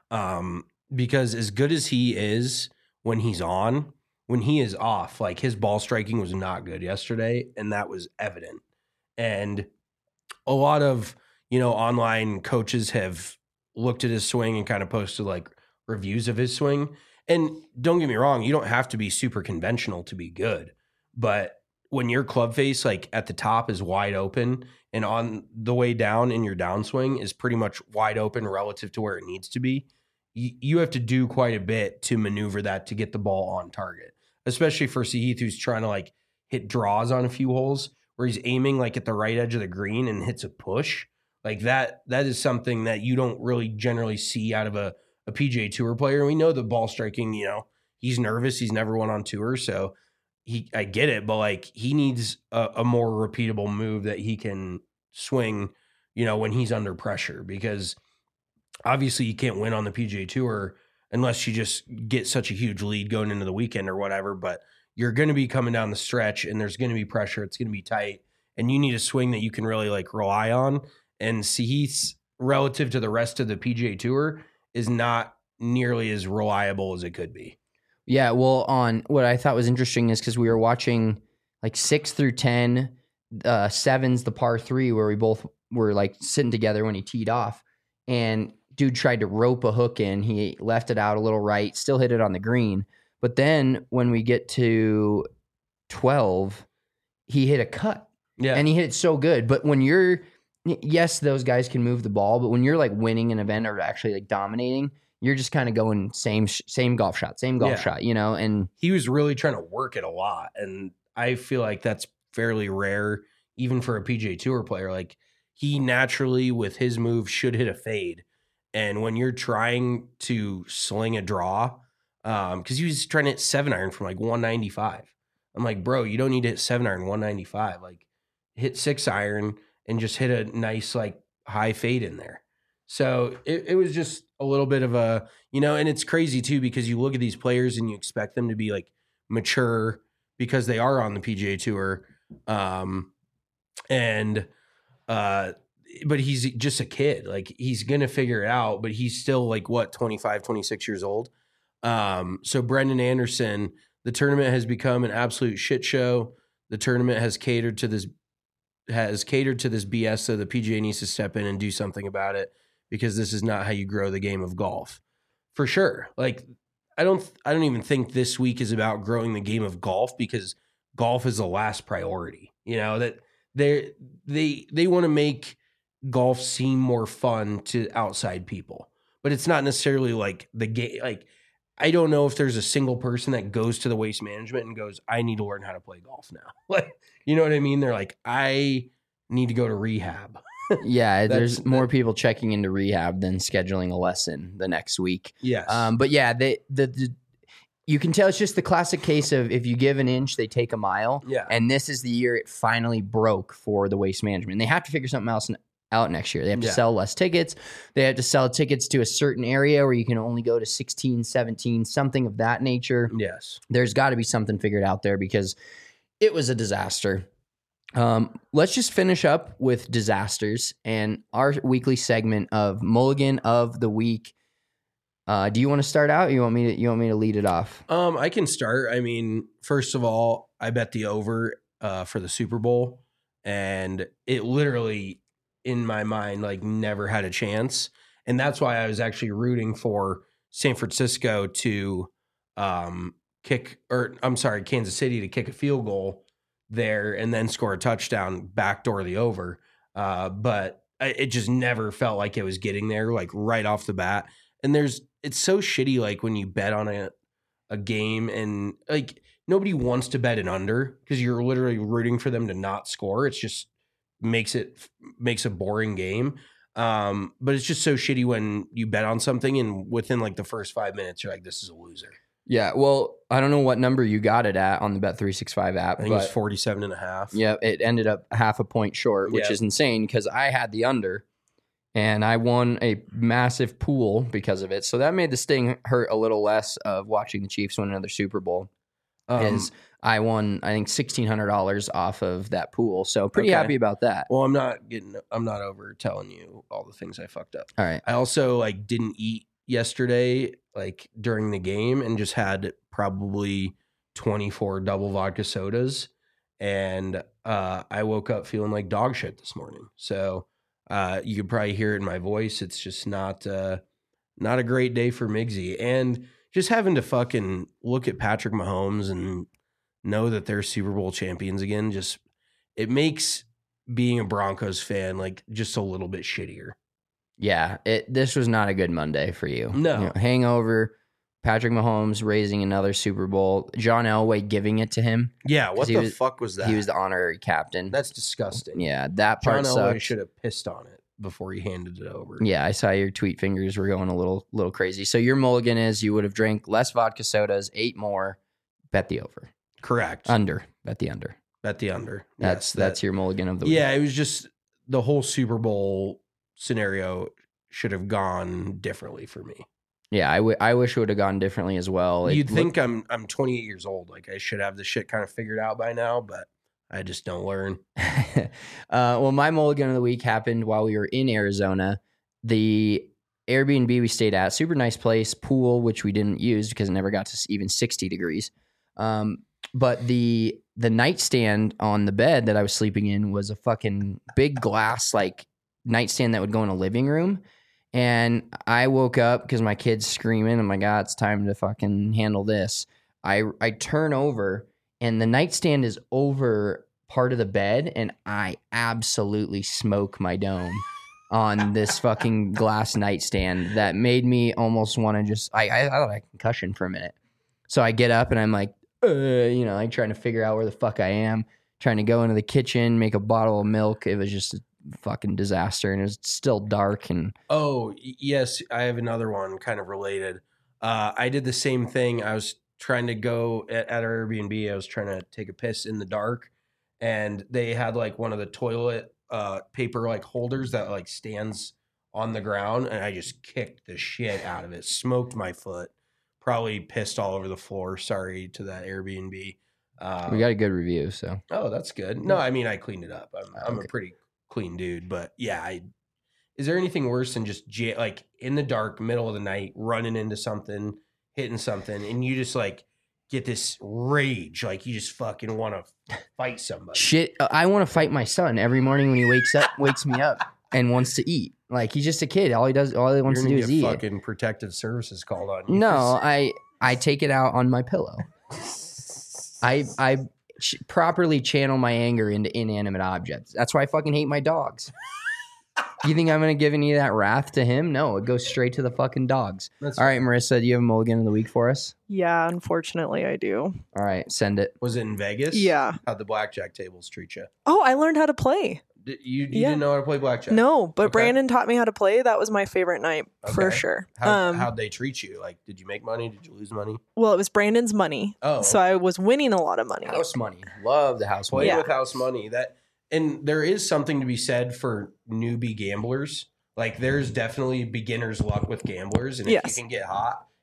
Because as good as he is when he's on, when he is off, like his ball striking was not good yesterday, and that was evident. And a lot of, online coaches have looked at his swing and kind of posted like reviews of his swing. And don't get me wrong, you don't have to be super conventional to be good. But when your club face, like at the top is wide open and on the way down in your downswing is pretty much wide open relative to where it needs to be, you have to do quite a bit to maneuver that to get the ball on target, especially for Sahith, who's trying to like hit draws on a few holes where he's aiming like at the right edge of the green and hits a push. Like that is something that you don't really generally see out of a PGA Tour player. And we know the ball striking, he's nervous. He's never won on tour. So I get it, but like he needs a more repeatable move that he can swing, when he's under pressure, because obviously you can't win on the PGA Tour unless you just get such a huge lead going into the weekend or whatever. But you're going to be coming down the stretch and there's going to be pressure. It's going to be tight and you need a swing that you can really like rely on. And Sahith's relative to the rest of the PGA Tour is not nearly as reliable as it could be. Yeah, well, on what I thought was interesting is because we were watching like 6 through 10, 7's the par 3 where we both were like sitting together when he teed off, and dude tried to rope a hook in. He left it out a little right, still hit it on the green. But then when we get to 12, he hit a cut. Yeah. And he hit it so good. But when yes, those guys can move the ball, but when you're like winning an event or actually like dominating, you're just kind of going same golf shot, and he was really trying to work it a lot. And I feel like that's fairly rare, even for a PGA Tour player. Like he naturally with his move should hit a fade. And when you're trying to sling a draw, because he was trying to hit 7-iron from like 195. I'm like, bro, you don't need to hit 7-iron 195. Like hit 6-iron and just hit a nice like high fade in there. So it was just a little bit of a, and it's crazy too, because you look at these players and you expect them to be like mature because they are on the PGA Tour. But he's just a kid. Like he's going to figure it out, but he's still like 25, 26 years old. So Brendan Anderson, the tournament has become an absolute shit show. The tournament has catered to this BS. So the PGA needs to step in and do something about it, because this is not how you grow the game of golf, for sure. Like I don't even think this week is about growing the game of golf, because golf is the last priority. That they want to make golf seem more fun to outside people, but it's not necessarily like the game. Like I don't know if there's a single person that goes to the Waste Management and goes, I need to learn how to play golf now. Like, you know what I mean? They're like, I need to go to rehab. Yeah, there's more people checking into rehab than scheduling a lesson the next week. Yes. But yeah, you can tell it's just the classic case of if you give an inch, they take a mile. Yeah. And this is the year it finally broke for the Waste Management. And they have to figure something else out next year. They have to sell less tickets. They have to sell tickets to a certain area where you can only go to 16, 17, something of that nature. Yes. There's got to be something figured out there, because it was a disaster. Let's just finish up with disasters and our weekly segment of Mulligan of the Week. Do you want to start out? Or you want me to lead it off? I can start. I mean, first of all, I bet the over for the Super Bowl, and it literally, in my mind, like never had a chance. And that's why I was actually rooting for San Francisco to Kansas City to kick a field goal there and then score a touchdown, backdoor the over. But it just never felt like it was getting there, like right off the bat. And it's so shitty, like when you bet on a game and like nobody wants to bet an under because you're literally rooting for them to not score. It's just makes a boring game. But it's just so shitty when you bet on something and within like the first 5 minutes, you're like, this is a loser. Yeah, well, I don't know what number you got it at on the Bet365 app. I think it was 47.5. Yeah, it ended up half a point short, which is insane because I had the under and I won a massive pool because of it. So that made the sting hurt a little less of watching the Chiefs win another Super Bowl. I won, I think, $1,600 off of that pool. So pretty happy about that. Well, I'm not over telling you all the things I fucked up. All right. I also like didn't eat yesterday, like during the game, and just had probably 24 double vodka sodas. And I woke up feeling like dog shit this morning. So you could probably hear it in my voice. It's just not a great day for Migsy. And just having to fucking look at Patrick Mahomes and know that they're Super Bowl champions again, just it makes being a Broncos fan like just a little bit shittier. Yeah, this was not a good Monday for you. No. You know, hangover, Patrick Mahomes raising another Super Bowl, John Elway giving it to him. Yeah, what the fuck was that? He was the honorary captain. That's disgusting. Yeah, that part John sucked. Elway should have pissed on it before he handed it over. Yeah, I saw your tweet fingers were going a little crazy. So your mulligan is you would have drank less vodka sodas, 8 more, bet the over. Correct. Under. Bet the under. Bet the under. That's your mulligan of the week. Yeah, it was just the whole Super Bowl scenario should have gone differently for me. Yeah, I wish it would have gone differently as well. You'd think I'm 28 years old. Like I should have this shit kind of figured out by now, but I just don't learn. Well, my mulligan of the week happened while we were in Arizona. The Airbnb we stayed at, super nice place, pool, which we didn't use because it never got to even 60 degrees. But the nightstand on the bed that I was sleeping in was a fucking big glass like nightstand that would go in a living room. And I woke up because my kid's screaming. I'm like, God, it's time to fucking handle this. I turn over and the nightstand is over part of the bed, and I absolutely smoke my dome on this fucking glass nightstand that made me almost want to just. I thought I had a concussion for a minute. So I get up and I'm like, like trying to figure out where the fuck I am, trying to go into the kitchen, make a bottle of milk. It was just a fucking disaster, and it was still dark. And yes, I have another one kind of related. I did the same thing. I was trying to go at our Airbnb. I was trying to take a piss in the dark, and they had like one of the toilet paper like holders that like stands on the ground, and I just kicked the shit out of it, smoked my foot, probably pissed all over the floor. Sorry to that Airbnb. We got a good review, so. Oh, that's good. No, I mean, I cleaned it up. I'm a pretty clean dude, but yeah, is there anything worse than just like in the dark, middle of the night, running into something, hitting something, and you just like get this rage, like you just fucking want to fight somebody. Shit, I want to fight my son every morning when he wakes me up and wants to eat. Like he's just a kid. All he wants to do is eat. Fucking protective services called on you. No, I take it out on my pillow. I properly channel my anger into inanimate objects. That's why I fucking hate my dogs. You think I'm going to give any of that wrath to him? No, it goes straight to the fucking dogs. All right, Marissa, do you have a mulligan of the week for us? Yeah, unfortunately I do. All right, send it. Was it in Vegas? Yeah. How'd the blackjack tables treat you? Oh, I learned how to play. You didn't know how to play blackjack? No, but Brandon taught me how to play. That was my favorite night for sure. How'd they treat you? Like, did you make money? Did you lose money? Well, it was Brandon's money. Oh. So I was winning a lot of money. House money. Love the house money. Play with house money. And there is something to be said for newbie gamblers. Like, there's definitely beginner's luck with gamblers. And if you can get hot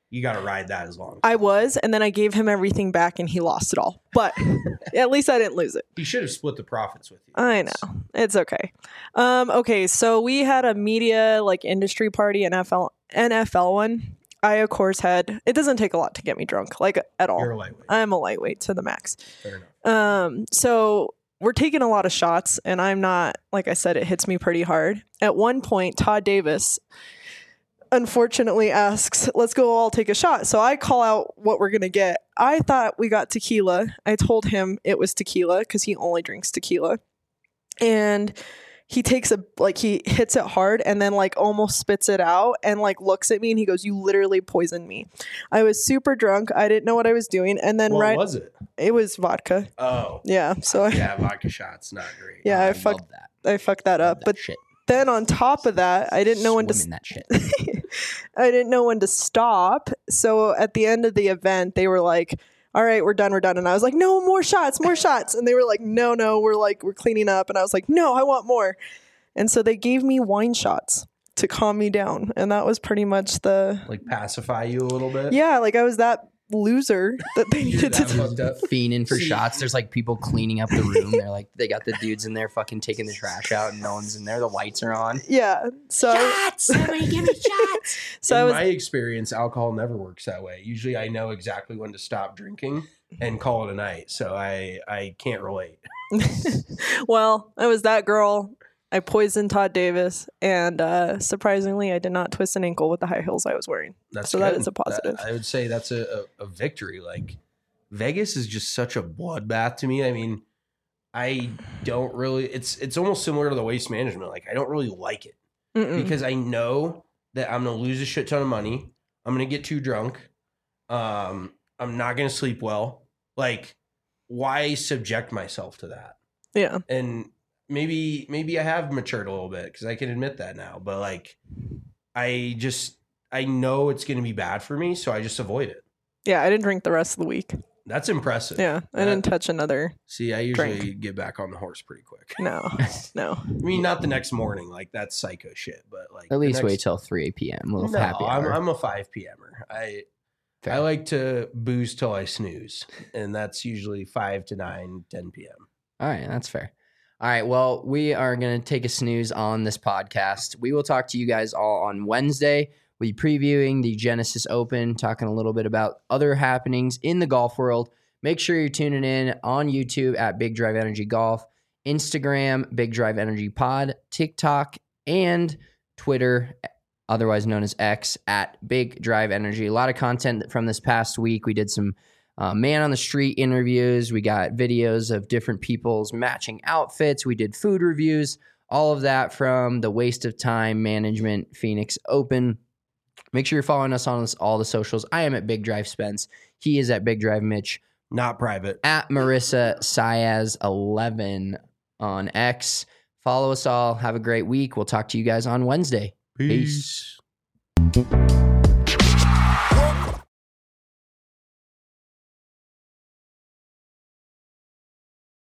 you got to ride that as long. I was, and then I gave him everything back and he lost it all. But at least I didn't lose it. He should have split the profits with you. I know. It's okay. Okay, so we had a media like industry party, NFL one. I, of course, it doesn't take a lot to get me drunk, like at all. You're a lightweight. I'm a lightweight to the max. Fair enough. So we're taking a lot of shots, and I'm not, like I said, it hits me pretty hard. At one point, Todd Davis unfortunately asks, let's go all take a shot. So I call out what we're going to get. I thought we got tequila. I told him it was tequila because he only drinks tequila. And he takes he hits it hard and then like almost spits it out and like looks at me and he goes, you literally poisoned me. I was super drunk. I didn't know what I was doing. And then what was it? It was vodka. Oh. Yeah. So yeah, vodka shots, not great. Yeah, I fucked that up. But shit. Then on top of that, I didn't know when to that shit. I didn't know when to stop. So at the end of the event, they were like, all right, we're done. And I was like, no, more shots. And they were like, no, we're cleaning up. And I was like, no, I want more. And so they gave me wine shots to calm me down. And that was pretty much like pacify you a little bit. Yeah. Like I was that loser that they needed to fiending for shots. There's like people cleaning up the room. They're like, they got the dudes in there fucking taking the trash out and no one's in there. The lights are on. Yeah. So shots! Somebody give me shots! So in my experience, alcohol never works that way. Usually I know exactly when to stop drinking and call it a night. So I can't relate. Well, I was that girl. I poisoned Todd Davis, and surprisingly, I did not twist an ankle with the high heels I was wearing. That's so good. That is a positive. I would say that's a victory. Like Vegas is just such a bloodbath to me. I mean, I don't really. It's almost similar to the Waste Management. Like I don't really like it because I know that I'm gonna lose a shit ton of money. I'm gonna get too drunk. I'm not gonna sleep well. Like, why subject myself to that? Yeah, and. Maybe I have matured a little bit because I can admit that now. But like, I know it's going to be bad for me, so I just avoid it. Yeah, I didn't drink the rest of the week. That's impressive. Yeah, I didn't touch another. See, I usually get back on the horse pretty quick. No. I mean, not the next morning. Like that's psycho shit. But like, at least wait till 3 p.m. A little happy hour. I'm a 5 p.m.er. I like to booze till I snooze, and that's usually 5 to 9, 10 p.m. All right, that's fair. All right, well, we are going to take a snooze on this podcast. We will talk to you guys all on Wednesday. We'll be previewing the Genesis Open, talking a little bit about other happenings in the golf world. Make sure you're tuning in on YouTube at Big Drive Energy Golf, Instagram, Big Drive Energy Pod, TikTok, and Twitter, otherwise known as X, at Big Drive Energy. A lot of content from this past week. We did some man on the street interviews. We got videos of different people's matching outfits. We did food reviews, all of that from the Waste of Time Management Phoenix Open. Make sure you're following us on all the socials. I am at Big Drive Spence. He is at Big Drive Mitch. Not private. At Marissa Siaz 11 on X. Follow us all. Have a great week. We'll talk to you guys on Wednesday. Peace. Peace.